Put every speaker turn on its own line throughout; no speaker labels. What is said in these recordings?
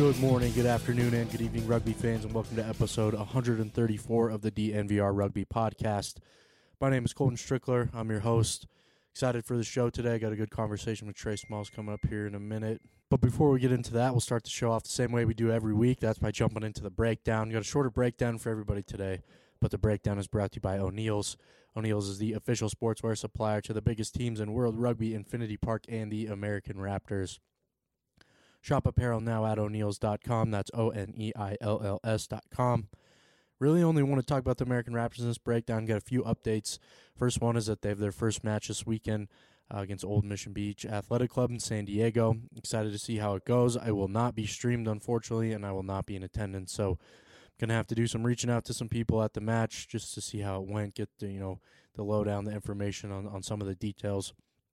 Good morning, good afternoon, and good evening, rugby fans, and welcome to episode 134 of the DNVR Rugby Podcast. My name is Colton Strickler. I'm your host. Excited for the show today. Got a good conversation with Trey Smalls coming up here in a minute. But before we get into that, we'll start the show off the same way we do every week. That's by jumping into the breakdown. Got a shorter breakdown for everybody today, but the breakdown is brought to you by O'Neill's. O'Neill's is the official sportswear supplier to the biggest teams in World Rugby, Infinity Park, and the American Raptors. Shop apparel now at O'Neills.com. That's Oneills.com. Really only want to talk about the American Raptors in this breakdown. Got a few updates. First one is that they have their first match this weekend against Old Mission Beach Athletic Club in San Diego. Excited to see how it goes. I will not be streamed, unfortunately, and I will not be in attendance. So I'm going to have to do some reaching out to some people at the match just to see how it went, get the lowdown, the information on some of the details.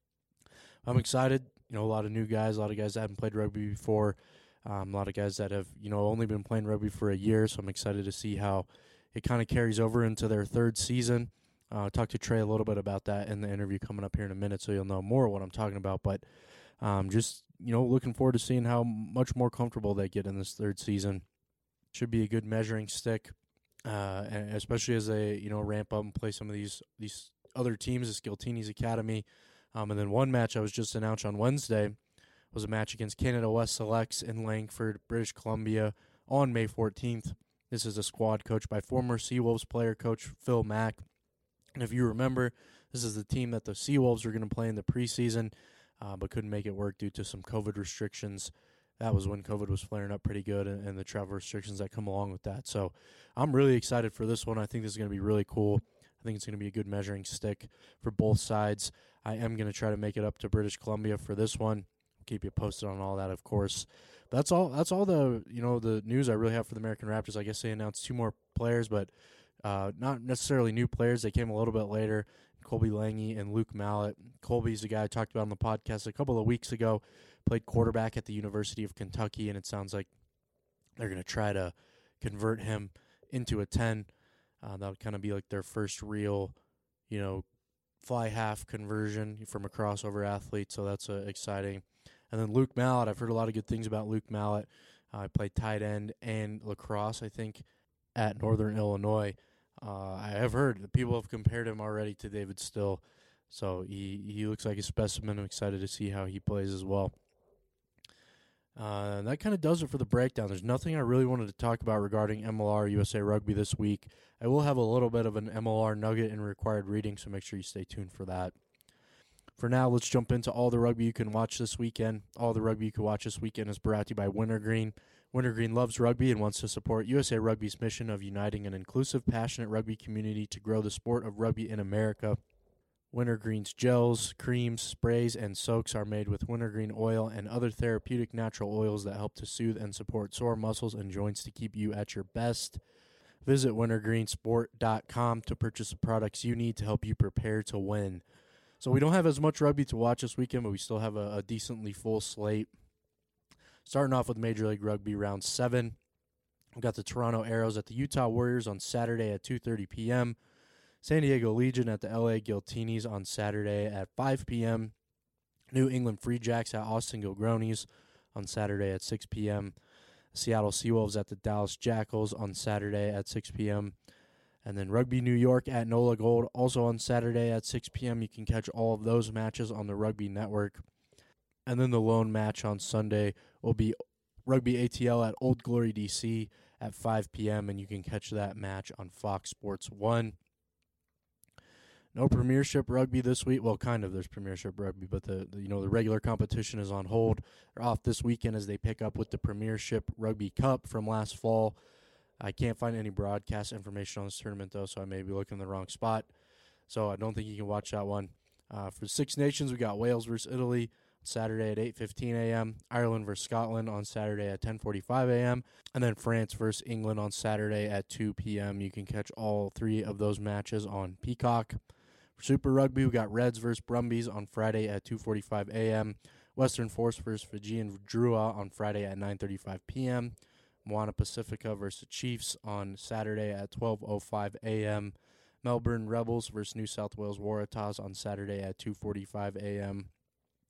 I'm excited. A lot of new guys, a lot of guys that haven't played rugby before, a lot of guys that have, only been playing rugby for a year, so I'm excited to see how it kind of carries over into their third season. Talk to Trey a little bit about that in the interview coming up here in a minute, so you'll know more what I'm talking about, but just, looking forward to seeing how much more comfortable they get in this third season. Should be a good measuring stick, and especially as they, ramp up and play some of these other teams, the Skiltini's Academy. And then one match I was just announced on Wednesday was a match against Canada West Selects in Langford, British Columbia on May 14th. This is a squad coached by former Seawolves player coach Phil Mack. And if you remember, this is the team that the Seawolves were going to play in the preseason, but couldn't make it work due to some COVID restrictions. That was when COVID was flaring up pretty good and the travel restrictions that come along with that. So I'm really excited for this one. I think this is going to be really cool. I think it's going to be a good measuring stick for both sides. I am going to try to make it up to British Columbia for this one. I'll keep you posted on all that, of course. But that's all the the news I really have for the American Raptors. I guess they announced two more players, but not necessarily new players. They came a little bit later. Colby Lange and Luke Mallett. Colby's the guy I talked about on the podcast a couple of weeks ago. Played quarterback at the University of Kentucky, and it sounds like they're going to try to convert him into a 10. That would kind of be like their first real, fly half conversion from a crossover athlete, so that's exciting. And then Luke Mallett, I've heard a lot of good things about Luke Mallett. I played tight end and lacrosse, I think, at Northern Illinois. I have heard that people have compared him already to David Still, so he looks like a specimen. I'm excited to see how he plays as well. That kind of does it for the breakdown. There's nothing I really wanted to talk about regarding MLR USA Rugby this week. I will have a little bit of an MLR nugget and required reading, so make sure you stay tuned for that. For now, let's jump into all the rugby you can watch this weekend. All the rugby you can watch this weekend is brought to you by Wintergreen. Wintergreen loves rugby and wants to support USA Rugby's mission of uniting an inclusive, passionate rugby community to grow the sport of rugby in America. Wintergreen's gels, creams, sprays, and soaks are made with wintergreen oil and other therapeutic natural oils that help to soothe and support sore muscles and joints to keep you at your best. Visit wintergreensport.com to purchase the products you need to help you prepare to win. So we don't have as much rugby to watch this weekend, but we still have a decently full slate. Starting off with Major League Rugby Round 7. We've got the Toronto Arrows at the Utah Warriors on Saturday at 2:30 p.m., San Diego Legion at the LA Giltinis on Saturday at 5 p.m. New England Free Jacks at Austin Gilgronis on Saturday at 6 p.m. Seattle Seawolves at the Dallas Jackals on Saturday at 6 p.m. And then Rugby New York at NOLA Gold also on Saturday at 6 p.m. You can catch all of those matches on the Rugby Network. And then the lone match on Sunday will be Rugby ATL at Old Glory DC at 5 p.m. And you can catch that match on Fox Sports 1. No Premiership Rugby this week. Well, kind of. There's Premiership Rugby, but the regular competition is on hold. They're off this weekend as they pick up with the Premiership Rugby Cup from last fall. I can't find any broadcast information on this tournament, though, so I may be looking in the wrong spot. So I don't think you can watch that one. For Six Nations, we got Wales versus Italy Saturday at 8:15 a.m., Ireland versus Scotland on Saturday at 10:45 a.m., and then France versus England on Saturday at 2 p.m. You can catch all three of those matches on Peacock. For Super Rugby, we got Reds versus Brumbies on Friday at 2:45 a.m., Western Force versus Fijian Drua on Friday at 9:35 p.m., Moana Pacifica versus Chiefs on Saturday at 12:05 a.m., Melbourne Rebels versus New South Wales Waratahs on Saturday at 2:45 a.m.,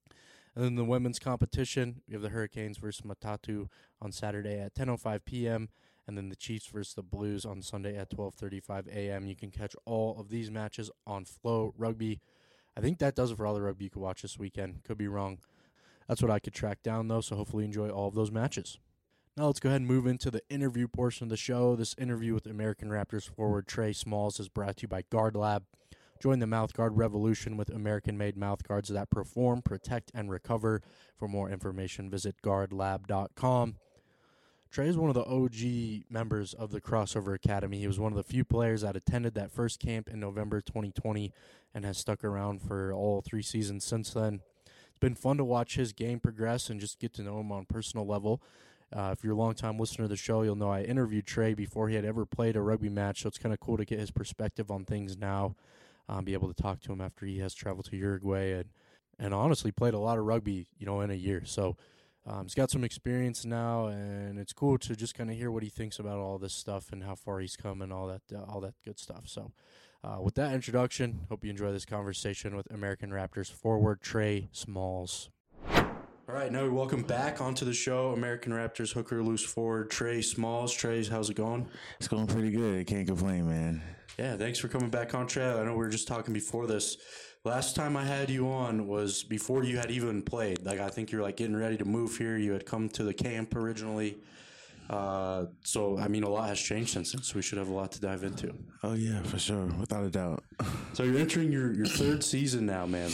And then the women's competition, we have the Hurricanes versus Matatu on Saturday at 10:05 p.m., and then the Chiefs versus the Blues on Sunday at 12:35 a.m. You can catch all of these matches on Flow Rugby. I think that does it for all the rugby you could watch this weekend. Could be wrong. That's what I could track down, though, so hopefully you enjoy all of those matches. Now let's go ahead and move into the interview portion of the show. This interview with American Raptors forward Trey Smalls is brought to you by Guard Lab. Join the mouthguard revolution with American-made mouthguards that perform, protect, and recover. For more information, visit guardlab.com. Trey is one of the OG members of the Crossover Academy. He was one of the few players that attended that first camp in November 2020 and has stuck around for all 3 seasons since then. It's been fun to watch his game progress and just get to know him on a personal level. If you're a long-time listener to the show, you'll know I interviewed Trey before he had ever played a rugby match, so it's kind of cool to get his perspective on things now. Be able to talk to him after he has traveled to Uruguay and honestly played a lot of rugby, in a year. So he's got some experience now, and it's cool to just kind of hear what he thinks about all this stuff and how far he's come and all that good stuff. So with that introduction, hope you enjoy this conversation with American Raptors forward Trey Smalls. All right, now we welcome back onto the show American Raptors hooker loose forward Trey Smalls. Trey, how's it going?
It's going pretty good. Can't complain, man.
Yeah, thanks for coming back on, Trey. I know we were just talking before this. Last time I had you on was before you had even played. I think you're getting ready to move here. You had come to the camp originally. So, a lot has changed since then, so we should have a lot to dive into.
Oh, yeah, for sure. Without a doubt.
So you're entering your 3rd season now, man.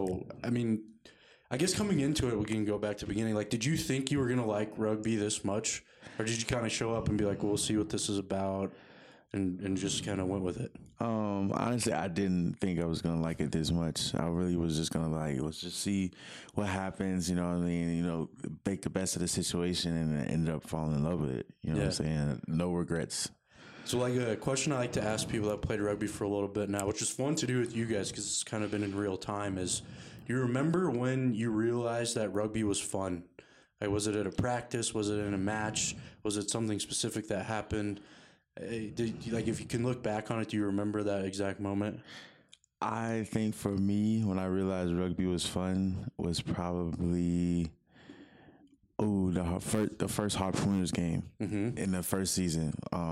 I guess coming into it, we can go back to the beginning. Did you think you were going to like rugby this much? Or did you kind of show up and be like, we'll see what this is about, and just kind of went with it?
Honestly, I didn't think I was going to like it this much. I really was just going to let's just see what happens, you know what I mean? Make the best of the situation, and I ended up falling in love with it. You know what I'm saying? No regrets.
So, a question I like to ask people that played rugby for a little bit now, which is fun to do with you guys because it's kind of been in real time, is do you remember when you realized that rugby was fun? Was it at a practice? Was it in a match? Was it something specific that happened? If you can look back on it, do you remember that exact moment?
I think for me, when I realized rugby was fun, was probably the first Harpooners game in the first season.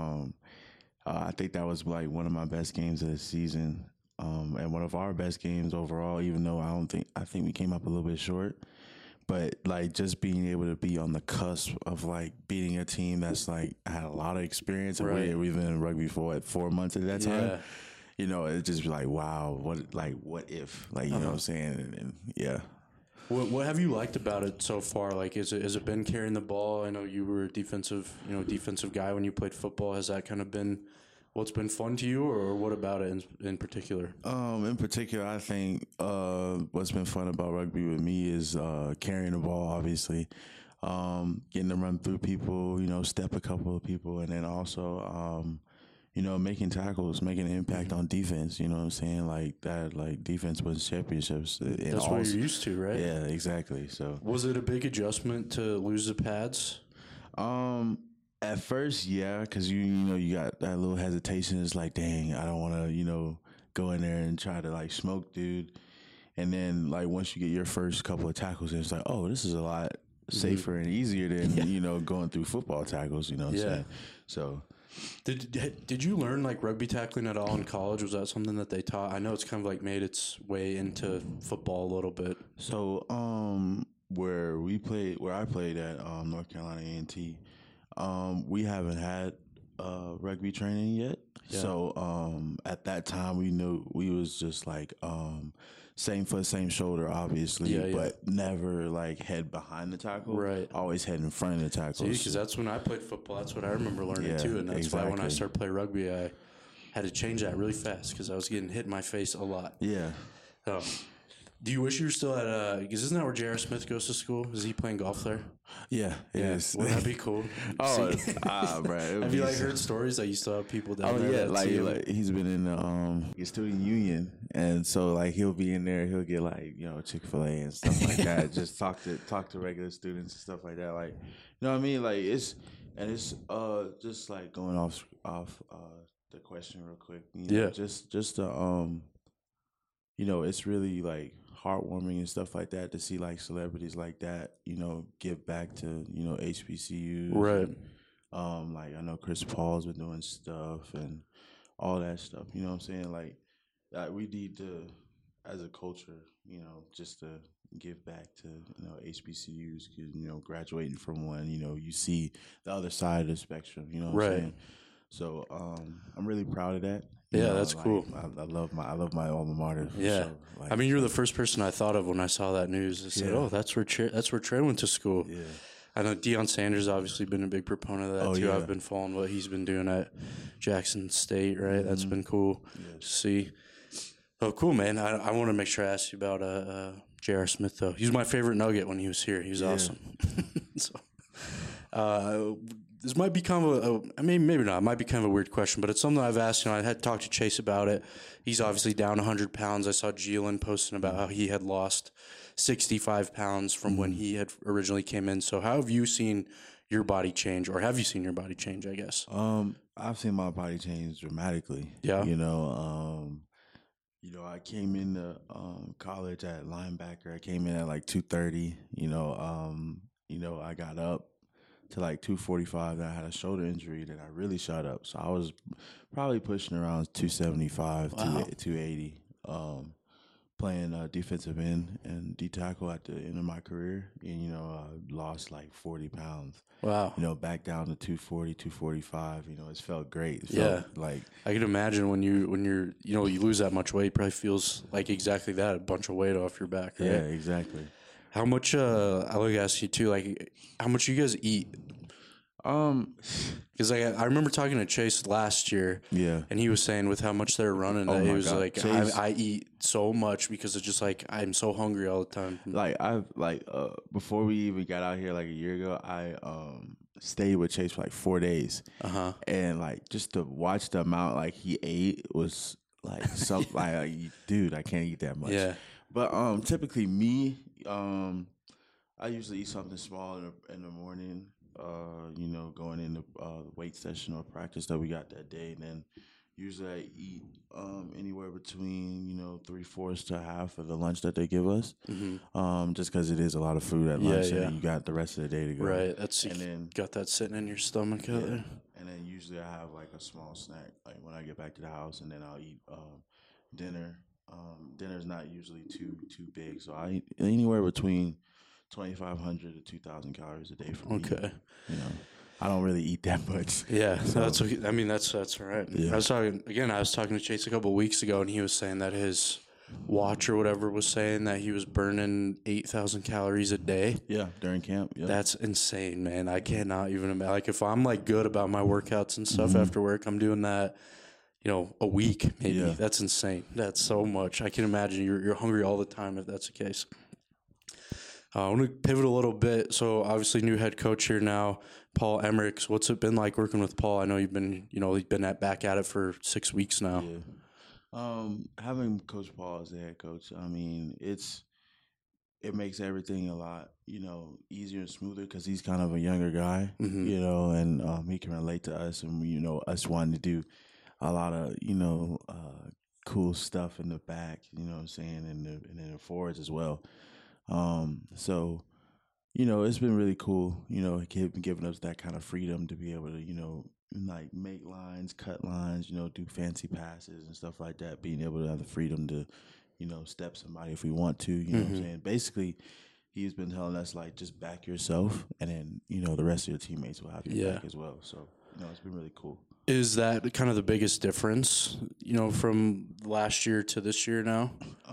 I think that was one of my best games of the season, and one of our best games overall. Even though I think we came up a little bit short, but just being able to be on the cusp of beating a team that's had a lot of experience, and we've been in rugby for 4 months at that time. It's just wow, what if, you know what I'm saying, and yeah.
What have you liked about it so far? Has it been carrying the ball? I know you were a defensive guy when you played football. Has that kind of been what's been fun to you, or what about it in particular?
In particular, I think what's been fun about rugby with me is carrying the ball, obviously, getting to run through people, step a couple of people, and then also making tackles, making an impact on defense. You know what I'm saying? Defense wins championships.
That's what you're used to, right?
Yeah, exactly. So,
was it a big adjustment to lose the pads?
At first, yeah, because you got that little hesitation. It's dang, I don't want to go in there and try to smoke dude. And then once you get your first couple of tackles, it's oh, this is a lot safer and easier than going through football tackles. You know what I'm saying? So.
Did you learn rugby tackling at all in college? Was that something that they taught? I know it's kind of made its way into football a little bit.
So where I played at North Carolina A&T, we haven't had rugby training yet. Yeah. So at that time we knew we was just same foot, same shoulder, obviously, but never head behind the tackle.
Right.
Always head in front of the tackle.
See, because that's when I played football. That's what I remember learning too, and that's why when I started playing rugby, I had to change that really fast because I was getting hit in my face a lot.
Yeah.
Do you wish you were still at? Because isn't that where J.R. Smith goes to school? Is he playing golf there?
Yeah, it is.
Wouldn't that be cool?
Bro.
Have you heard stories that you still have people down there?
Oh yeah, he's been in the student union, and so he'll be in there. He'll get Chick-fil-A and stuff like that. Just talk to regular students and stuff like that. You know what I mean? It's just going off the question real quick. Just you know, it's really like heartwarming and stuff like that to see like celebrities like that, you know, give back to, you know, HBCUs.
Right.
And, like I know Chris Paul's been doing stuff and all that stuff. You know what I'm saying? Like we need to, as a culture, you know, just to give back to, you know, HBCUs because, you know, graduating from one, you know, you see the other side of the spectrum. You know what I'm saying? So I'm really proud of that.
Yeah, that's cool.
I love my alma mater.
Yeah,
sure. Like,
I mean, you're the first person I thought of when I saw that news. I said, "Oh, that's where Trey went to school."
Yeah,
I know Deion Sanders obviously been a big proponent of that too.
Yeah.
I've been following what he's been doing at Jackson State. Right, that's been cool to see. Oh, cool, man. I want to make sure I ask you about J.R. Smith though. He was my favorite Nugget when he was here. He was awesome. So, this might be kind of I mean, maybe not. It might be kind of a weird question, but it's something I've asked. You know, I had talked to Chase about it. He's obviously down 100 pounds. I saw Jalen posting about how he had lost 65 pounds from when he had originally came in. So how have you seen your body change, or have you seen your body change, I guess?
I've seen my body change dramatically.
Yeah.
You know, I came into college at linebacker. I came in at like 230. You know, I got up to like 245. Then I had a shoulder injury. Then I really shot up. So I was probably pushing around 275, 280. Playing defensive end and D tackle at the end of my career, and you know, I lost like 40 pounds.
Wow.
You know, back down to 240, 245. You know, it's felt great. It felt like
I can imagine when you're you lose that much weight, it probably feels like exactly that, a bunch of weight off your back. Right?
Yeah, exactly.
How much? I would ask you too. Like, how much you guys eat? Because I remember talking to Chase last year, and he was saying with how much they're running, that he was God. Like, Chase, I eat so much because it's just like I'm so hungry all the time.
Like before we even got out here like a year ago, I stayed with Chase for like 4 days, and like just to watch the amount like he ate was like something like dude, I can't eat that much.
Yeah,
but typically me, I usually eat something small in the morning. You know, going into weight session or practice that we got that day, and then usually I eat anywhere between 3/4 to half of the lunch that they give us, just because it is a lot of food at lunch, and you got the rest of the day to go.
Right, and then got that sitting in your stomach out there.
And then usually I have like a small snack, like when I get back to the house, and then I'll eat dinner. Dinner's not usually too big, so I eat anywhere between 2,500 to 2,000 calories a day for me.
Okay.
You know, I don't really eat that much.
Yeah, so that's okay. I mean, that's all right. Yeah. I was talking to Chase a couple of weeks ago, and he was saying that his watch or whatever was saying that he was burning 8,000 calories a day.
Yeah, during camp. Yeah.
That's insane, man. I cannot even imagine. Like, if I'm like good about my workouts and stuff after work, I'm doing that, a week maybe. Yeah. That's insane. That's so much. I can imagine you're hungry all the time if that's the case. I want to pivot a little bit. So obviously new head coach here now, Paul Emmerichs. What's it been like working with Paul? I know you've been, back at it for 6 weeks now.
Yeah. Having Coach Paul as the head coach, I mean, it makes everything a lot, easier and smoother because he's kind of a younger guy, and he can relate to us, and us wanting to do a lot of cool stuff in the back, you know what I'm saying, and in the forwards as well. So, it's been really cool, giving us that kind of freedom to be able to, like make lines, cut lines, do fancy passes and stuff like that, being able to have the freedom to, step somebody if we want to, you know what I'm saying? Basically, he's been telling us, like, just back yourself, and then, the rest of your teammates will have your back as well. So, it's been really cool.
Is that kind of the biggest difference, from last year to this year now?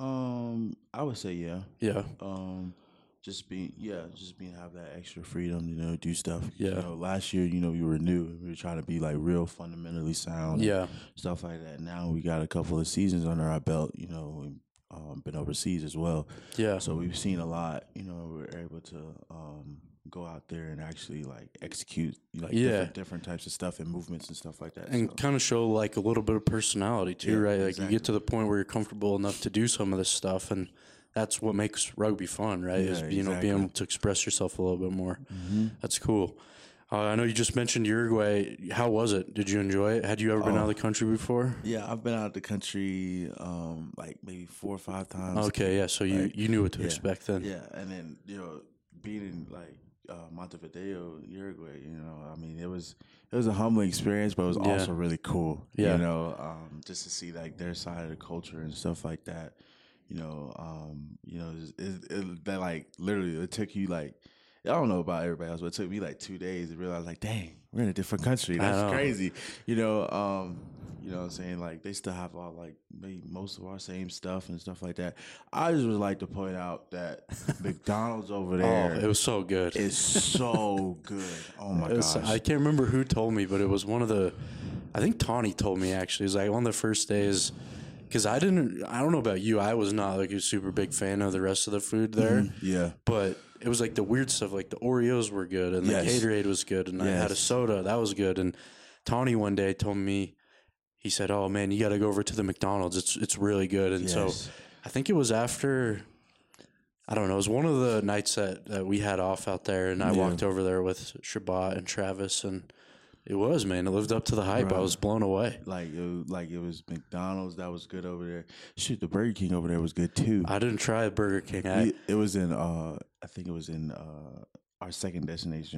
I would say yeah.
Yeah.
Just being have that extra freedom, do stuff.
Yeah.
Last year, we were new. We were trying to be like real fundamentally sound.
Yeah.
Stuff like that. Now we got a couple of seasons under our belt. We've been overseas as well.
Yeah.
So we've seen a lot. We're able to go out there and actually like execute different types of stuff and movements and stuff like that,
and kind of show like a little bit of personality too, right? Like
exactly.
You get to the point where you're comfortable enough to do some of this stuff, and that's what makes rugby fun, right? Is being able to express yourself a little bit more. That's cool. I know you just mentioned Uruguay. How was it? Did you enjoy it? Had you ever been out of the country before?
Yeah, I've been out of the country like maybe 4 or 5 times.
Okay, yeah. So you knew what to expect then.
Yeah, and then being in like Montevideo, Uruguay, I mean it was a humbling experience, but it was also really cool.
Yeah.
Just to see like their side of the culture and stuff like that. That like literally it took you like. I don't know about everybody else, but it took me like 2 days to realize, like, dang, we're in a different country. That's crazy. You know what I'm saying? Like, they still have all, like, maybe most of our same stuff and stuff like that. I just would like to point out that McDonald's over there.
Oh, it was so good.
It's so good. Oh, my gosh.
I can't remember who told me, but it was one of the, I think Tawny told me, actually. It was like one of the first days, because I don't know about you. I was not, like, a super big fan of the rest of the food there.
Mm-hmm. Yeah.
But it was like the weird stuff, like the Oreos were good and the Gatorade was good, and I had a soda that was good. And Tawny one day told me, he said, "Oh man, you got to go over to the McDonald's. It's really good." And so I think it was after, I don't know, it was one of the nights that we had off out there, and I walked over there with Shabbat and Travis, and it lived up to the hype. Bro, I was blown away.
It was McDonald's that was good over there. Shoot, the Burger King over there was good too.
I didn't try Burger King.
It was in I think it was in our second destination,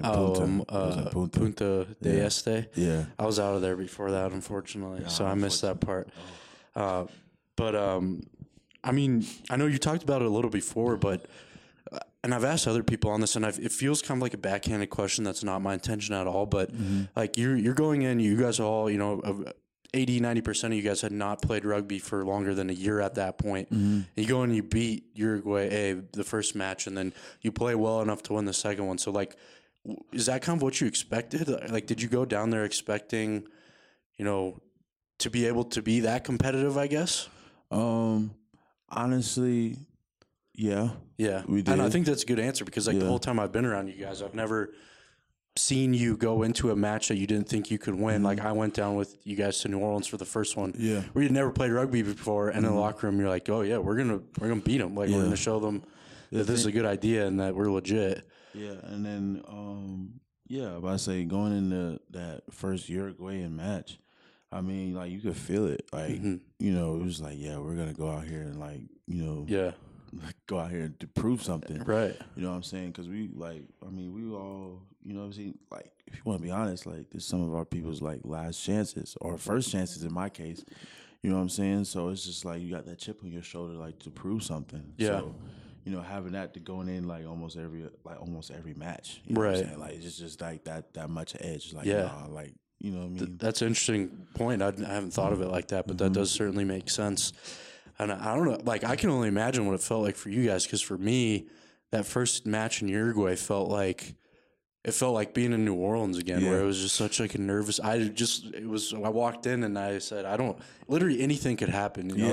Punta
del Este.
Yeah,
I was out of there before that, unfortunately, so I missed that part. But I mean, I know you talked about it a little before, but. And I've asked other people on this, and it feels kind of like a backhanded question. That's not my intention at all. But like you're going in, you guys all, 80-90% of you guys had not played rugby for longer than a year at that point. And you go and you beat Uruguay the first match, and then you play well enough to win the second one. So like, is that kind of what you expected? Like, did you go down there expecting, to be able to be that competitive? I guess.
Honestly. Yeah,
we did. And I think that's a good answer because the whole time I've been around you guys, I've never seen you go into a match that you didn't think you could win. Like I went down with you guys to New Orleans for the first one. Yeah, we had never played rugby before, and in the locker room, you're like, "Oh yeah, we're gonna beat them. Like we're gonna show them that this is a good idea and that we're legit." Yeah,
and then but I say going into that first Uruguayan match, I mean, like you could feel it. Like it was like, we're gonna go out here and like go out here to prove something.
Right.
You know what I'm saying? Because we all, like, if you want to be honest, like, this some of our people's, like, last chances or first chances in my case. You know what I'm saying? So it's just like you got that chip on your shoulder, like, to prove something.
Yeah.
So, having that to going in, like, almost every match. You know what I'm saying? Like, it's just, like, that much edge. Like, you know what I mean?
That's an interesting point. I haven't thought of it like that, but that does certainly make sense. And I don't know, like, I can only imagine what it felt like for you guys, because for me, that first match in Uruguay felt like being in New Orleans again, where it was just such like a nervous. I walked in and I said, literally anything could happen, we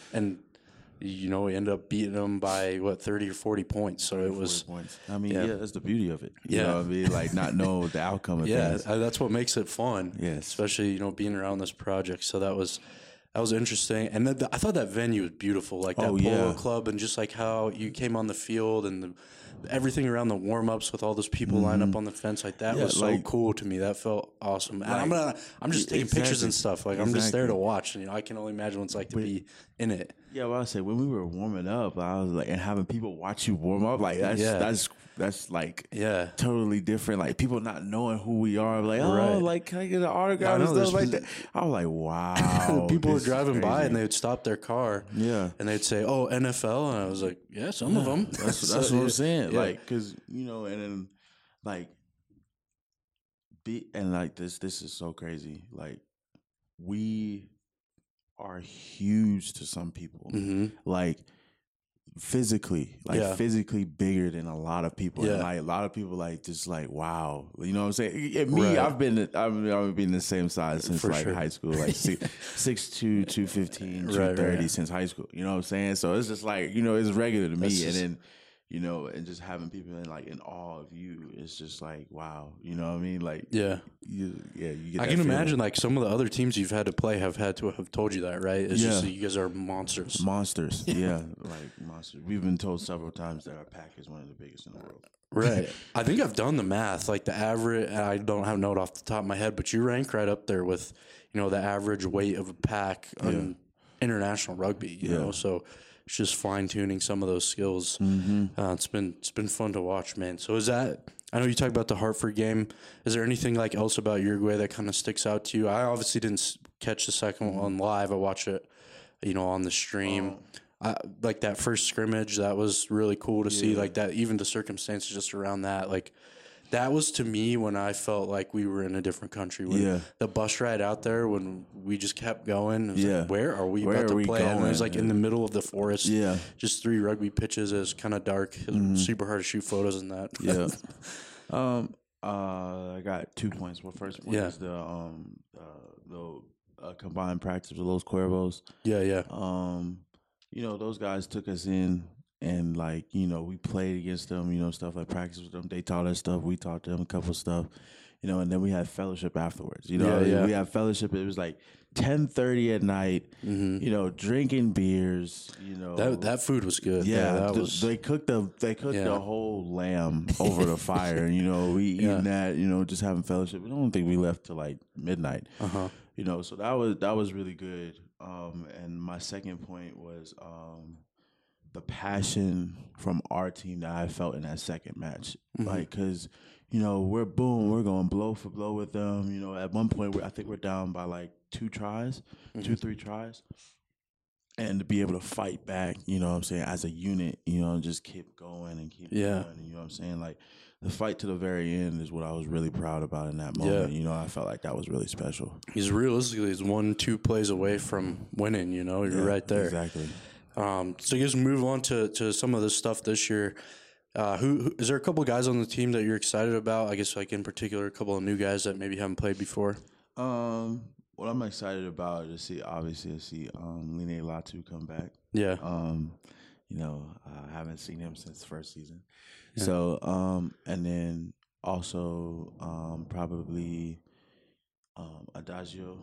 ended up beating them by 30 or 40 points. So it was.
I mean, that's the beauty of it. You know what I mean? Like not know the outcome of things.
Yeah, that's what makes it fun.
Yes,
especially being around this project. So that was interesting, and I thought that venue was beautiful, like that polo club, and just like how you came on the field and everything around the warm ups with all those people lined up on the fence, like that was so cool to me. That felt awesome. And I'm just taking pictures and stuff. Like I'm just there to watch, and I can only imagine what it's like to be in it.
Yeah, well, I say when we were warming up, I was like, and having people watch you warm up, like that's like totally different. Like people not knowing who we are, like like can I get an autograph and stuff like that? I was like, wow.
People were driving by and they would stop their car, and they'd say, "Oh, NFL," and I was like, "Yeah, some of them."
That's what I'm saying. Yeah. Like, cause and then like this is so crazy. Like we are huge to some people, like physically bigger than a lot of people. And like a lot of people like just like, wow, you know what I'm saying? And me, I've been the same size since high school, like 6'2", 215, 230 since high school. You know what I'm saying? So it's just like, it's regular to me. And then you know, and just having people in awe of you. It's just like, wow, you know what I mean? Like,
Yeah.
you get
I
that
can
feeling.
imagine like some of the other teams you've had to play have had to have told you that, right? It's just that you guys are monsters.
Monsters, yeah, like monsters. We've been told several times that our pack is one of the biggest in the world.
Right. I think I've done the math. Like the average, I don't have a note off the top of my head, but you rank right up there with, you know, the average weight of a pack on international rugby. You know, so it's just fine tuning some of those skills. It's been fun to watch, man. So is that? I know you talked about the Hartford game. Is there anything like else about Uruguay that kind of sticks out to you? I obviously didn't catch the second one live. I watched it, you know, on the stream. Like that first scrimmage, that was really cool to see. Like that, even the circumstances just around that, like that was to me when I felt like we were in a different country. When the bus ride out there, when we just kept going, it was like, where are we about to play? And it was like in the middle of the forest. Just 3 rugby pitches. It was kind of dark. It was super hard to shoot photos in that.
I got 2 points. Well, first point is the combined practice with Los Cuervos. You know, those guys took us in and, like, you know, we played against them, you know, stuff like practice with them. They taught us stuff. We taught them a couple of stuff, you know, and then we had fellowship afterwards. You know, we had fellowship. It was like 10:30 at night, you know, drinking beers, you know.
That food was good.
They cooked the whole lamb over the fire. And, you know, we eating that, you know, just having fellowship. I don't think we left till like midnight. You know, so that was really good. And my second point was the passion from our team that I felt in that second match. Like, because, you know, we're going blow for blow with them. You know, at one point, I think we're down by like 3 tries. And to be able to fight back, you know what I'm saying, as a unit, you know, and just keep going and keep going. And, you know what I'm saying? Like, the fight to the very end is what I was really proud about in that moment. You know, I felt like that was really special.
He's 1-2 plays away from winning, you know. You're right there.
Exactly.
So you guys move on to some of this stuff this year. Who is there a couple of guys on the team that you're excited about? I guess, like, in particular, a couple of new guys that maybe haven't played before?
What I'm excited about is to see Line Latu come back. You know, I haven't seen him since the first season. So, and then also probably Adagio,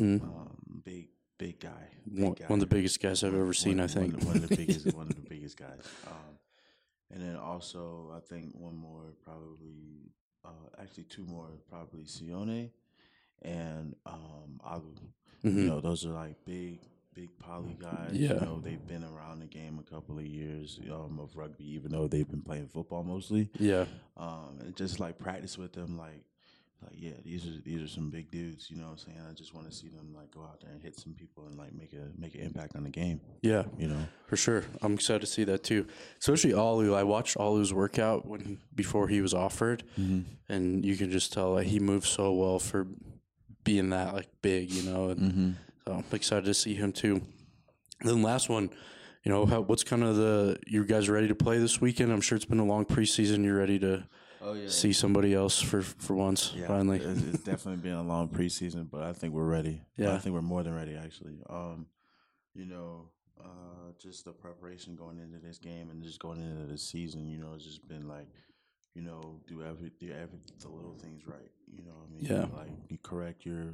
big guy.
One of the biggest guys I've ever seen, I think.
One of the biggest guys. And then also, I think one more probably, actually 2 more, probably Sione and Agu. You know, those are like big poly guys. You know, they've been around the game a couple of years of rugby, even though they've been playing football mostly. And just like practice with them, like these are some big dudes. You know what I'm saying? I just want to see them like go out there and hit some people and like make an impact on the game. You know, for
sure. I'm excited to see that too. Especially Alu. I watched Alu's workout before he was offered, and you can just tell that he moves so well for being that like big, you know. And so I'm excited to see him too. And then last one, you know, what's kind of you guys ready to play this weekend? I'm sure it's been a long preseason. You're ready to see somebody else for once, finally.
It's definitely been a long preseason, but I think we're ready. I think we're more than ready, actually. You know, just the preparation going into this game and just going into the season, you know, it's just been like, you know, do the little things right. You know what I mean? Like, you correct your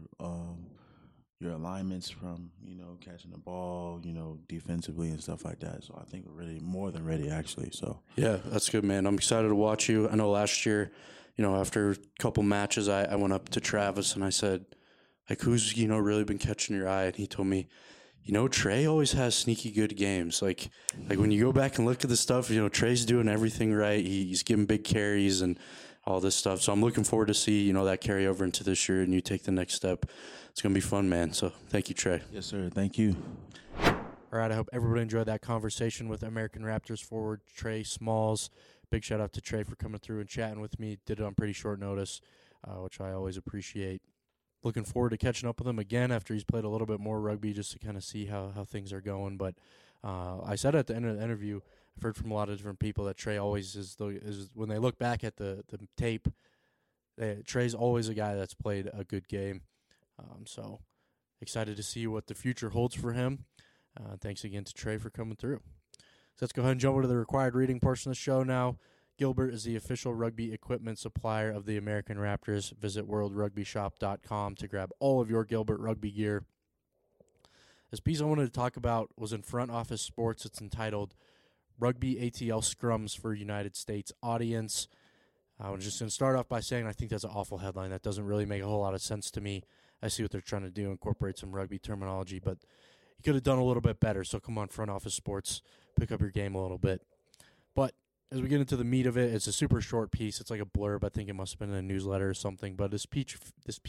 alignments from, you know, catching the ball, you know, defensively and stuff like that. So I think we're really more than ready, actually. So
yeah, that's good, man. I'm excited to watch you. I know last year, you know, after a couple matches, I went up to Travis and I said, like, who's, you know, really been catching your eye? And he told me, you know, Trey always has sneaky good games. Like when you go back and look at the stuff, you know, Trey's doing everything right. He's giving big carries and all this stuff. So I'm looking forward to see, you know, that carry over into this year and you take the next step. It's going to be fun, man. So thank you, Trey.
Yes, sir. Thank you.
All right. I hope everybody enjoyed that conversation with American Raptors forward Trey Smalls. Big shout out to Trey for coming through and chatting with me. Did it on pretty short notice, which I always appreciate. Looking forward to catching up with him again after he's played a little bit more rugby just to kind of see how things are going. But I said at the end of the interview, I've heard from a lot of different people that Trey always is when they look back at the tape, Trey's always a guy that's played a good game. So excited to see what the future holds for him. Thanks again to Trey for coming through. So let's go ahead and jump into the required reading portion of the show now. Gilbert is the official rugby equipment supplier of the American Raptors. Visit worldrugbyshop.com to grab all of your Gilbert rugby gear. This piece I wanted to talk about was in Front Office Sports. It's entitled Rugby ATL Scrums for United States Audience. I'm just going to start off by saying I think that's an awful headline. That doesn't really make a whole lot of sense to me. I see what they're trying to do, incorporate some rugby terminology, but you could have done a little bit better. So come on, Front Office Sports, pick up your game a little bit. But as we get into the meat of it, it's a super short piece. It's like a blurb. I think it must have been in a newsletter or something. But this peach,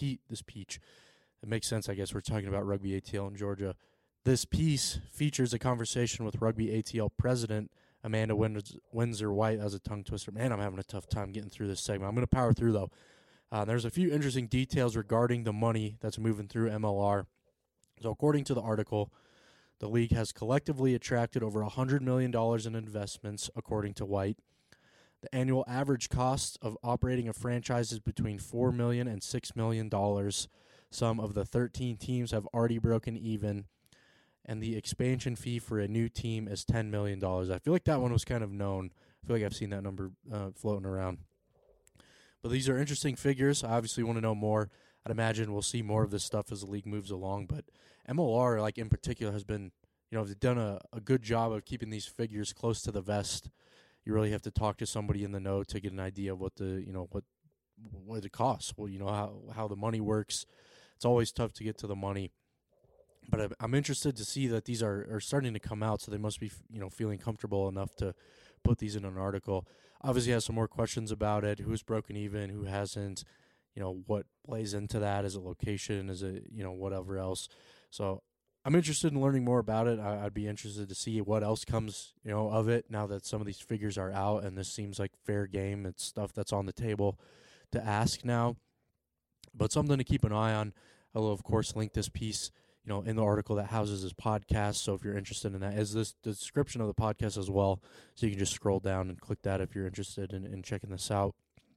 it makes sense, I guess. We're talking about Rugby ATL in Georgia. This piece features a conversation with Rugby ATL president Amanda Windsor-White. As a tongue twister. Man, I'm having a tough time getting through this segment. I'm going to power through, though. There's a few interesting details regarding the money that's moving through MLR. So according to the article, the league has collectively attracted over $100 million in investments, according to White. The annual average cost of operating a franchise is between $4 million and $6 million. Some of the 13 teams have already broken even, and the expansion fee for a new team is $10 million. I feel like that one was kind of known. I feel like I've seen that number floating around. But these are interesting figures. I obviously want to know more. I'd imagine we'll see more of this stuff as the league moves along. But MLR, like in particular, has been, they've done a good job of keeping these figures close to the vest. You really have to talk to somebody in the know to get an idea of what it costs. Well, how the money works. It's always tough to get to the money. But I'm interested to see that these are starting to come out, so they must be, feeling comfortable enough to put these in an article. Obviously has some more questions about it. Who's broken even, who hasn't, what plays into that? Is it location? Is it, whatever else? So I'm interested in learning more about it. I'd be interested to see what else comes, of it now that some of these figures are out, and this seems like fair game. It's stuff that's on the table to ask now. But something to keep an eye on. I will, of course, link this piece in the article that houses this podcast. So if you're interested in that, is this the description of the podcast as well. So you can just scroll down and click that if you're interested in checking this out.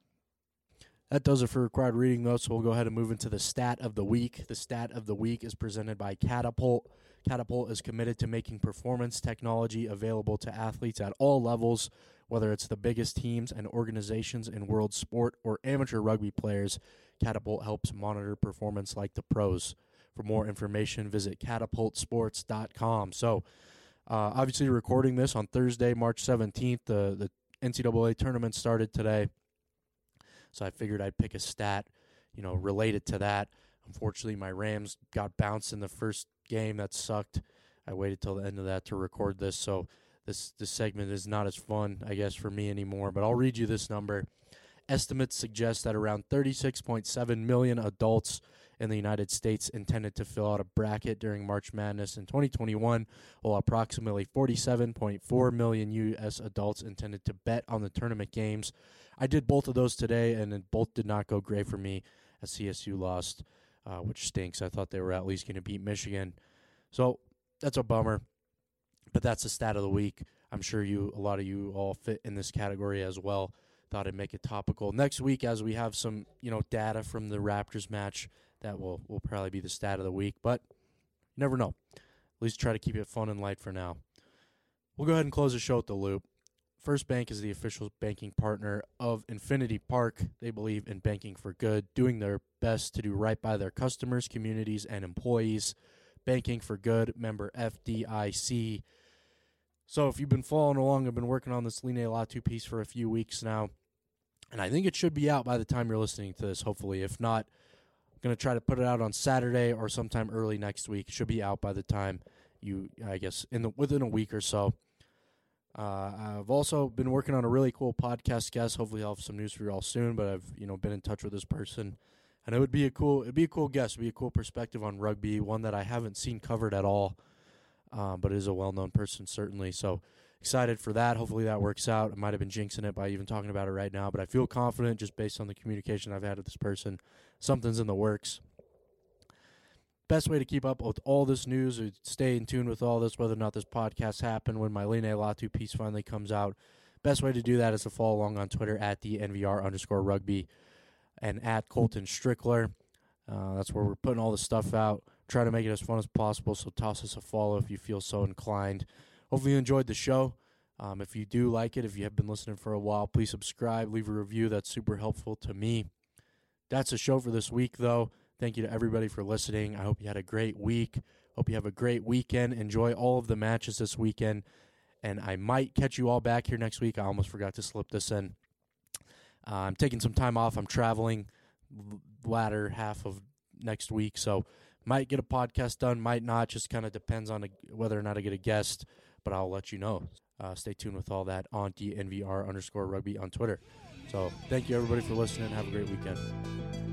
That does it for required reading, though, so we'll go ahead and move into the stat of the week. The stat of the week is presented by Catapult. Catapult is committed to making performance technology available to athletes at all levels, whether it's the biggest teams and organizations in world sport or amateur rugby players. Catapult helps monitor performance like the pros. For more information, visit catapultsports.com. So, obviously recording this on Thursday, March 17th. The NCAA tournament started today. So I figured I'd pick a stat, related to that. Unfortunately, my Rams got bounced in the first game. That sucked. I waited till the end of that to record this. So this segment is not as fun, I guess, for me anymore. But I'll read you this number. Estimates suggest that around 36.7 million adults in the United States intended to fill out a bracket during March Madness in 2021, while approximately 47.4 million U.S. adults intended to bet on the tournament games. I did both of those today, and both did not go great for me as CSU lost, which stinks. I thought they were at least going to beat Michigan. So that's a bummer, but that's the stat of the week. I'm sure a lot of you all fit in this category as well. Thought I'd make it topical. Next week, as we have some, data from the Raptors match, that will probably be the stat of the week, but you never know. At least try to keep it fun and light for now. We'll go ahead and close the show with the loop. First Bank is the official banking partner of Infinity Park. They believe in banking for good, doing their best to do right by their customers, communities, and employees. Banking for Good, member FDIC. So if you've been following along, I've been working on this Line Latu piece for a few weeks now, and I think it should be out by the time you're listening to this, hopefully. If not, I'm going to try to put it out on Saturday or sometime early next week. It should be out by the time within a week or so. I've also been working on a really cool podcast guest. Hopefully I'll have some news for you all soon, but I've, been in touch with this person, and it'd be a cool guest, it'd be a cool perspective on rugby, one that I haven't seen covered at all, but is a well-known person certainly. So excited for that. Hopefully that works out. I might have been jinxing it by even talking about it right now, but I feel confident just based on the communication I've had with this person. Something's in the works. Best way to keep up with all this news or stay in tune with all this, whether or not this podcast happened when my Line Latu piece finally comes out, best way to do that is to follow along on Twitter at the @NVR_rugby and at Colton Strickler. That's where we're putting all this stuff out. Try to make it as fun as possible, so toss us a follow if you feel so inclined. Hopefully you enjoyed the show. If you do like it, if you have been listening for a while, please subscribe, leave a review. That's super helpful to me. That's the show for this week, though. Thank you to everybody for listening. I hope you had a great week. Hope you have a great weekend. Enjoy all of the matches this weekend. And I might catch you all back here next week. I almost forgot to slip this in. I'm taking some time off. I'm traveling latter half of next week, so might get a podcast done, might not. Just kind of depends on whether or not I get a guest, but I'll let you know. Stay tuned with all that on DNVR_rugby on Twitter. So thank you, everybody, for listening. Have a great weekend.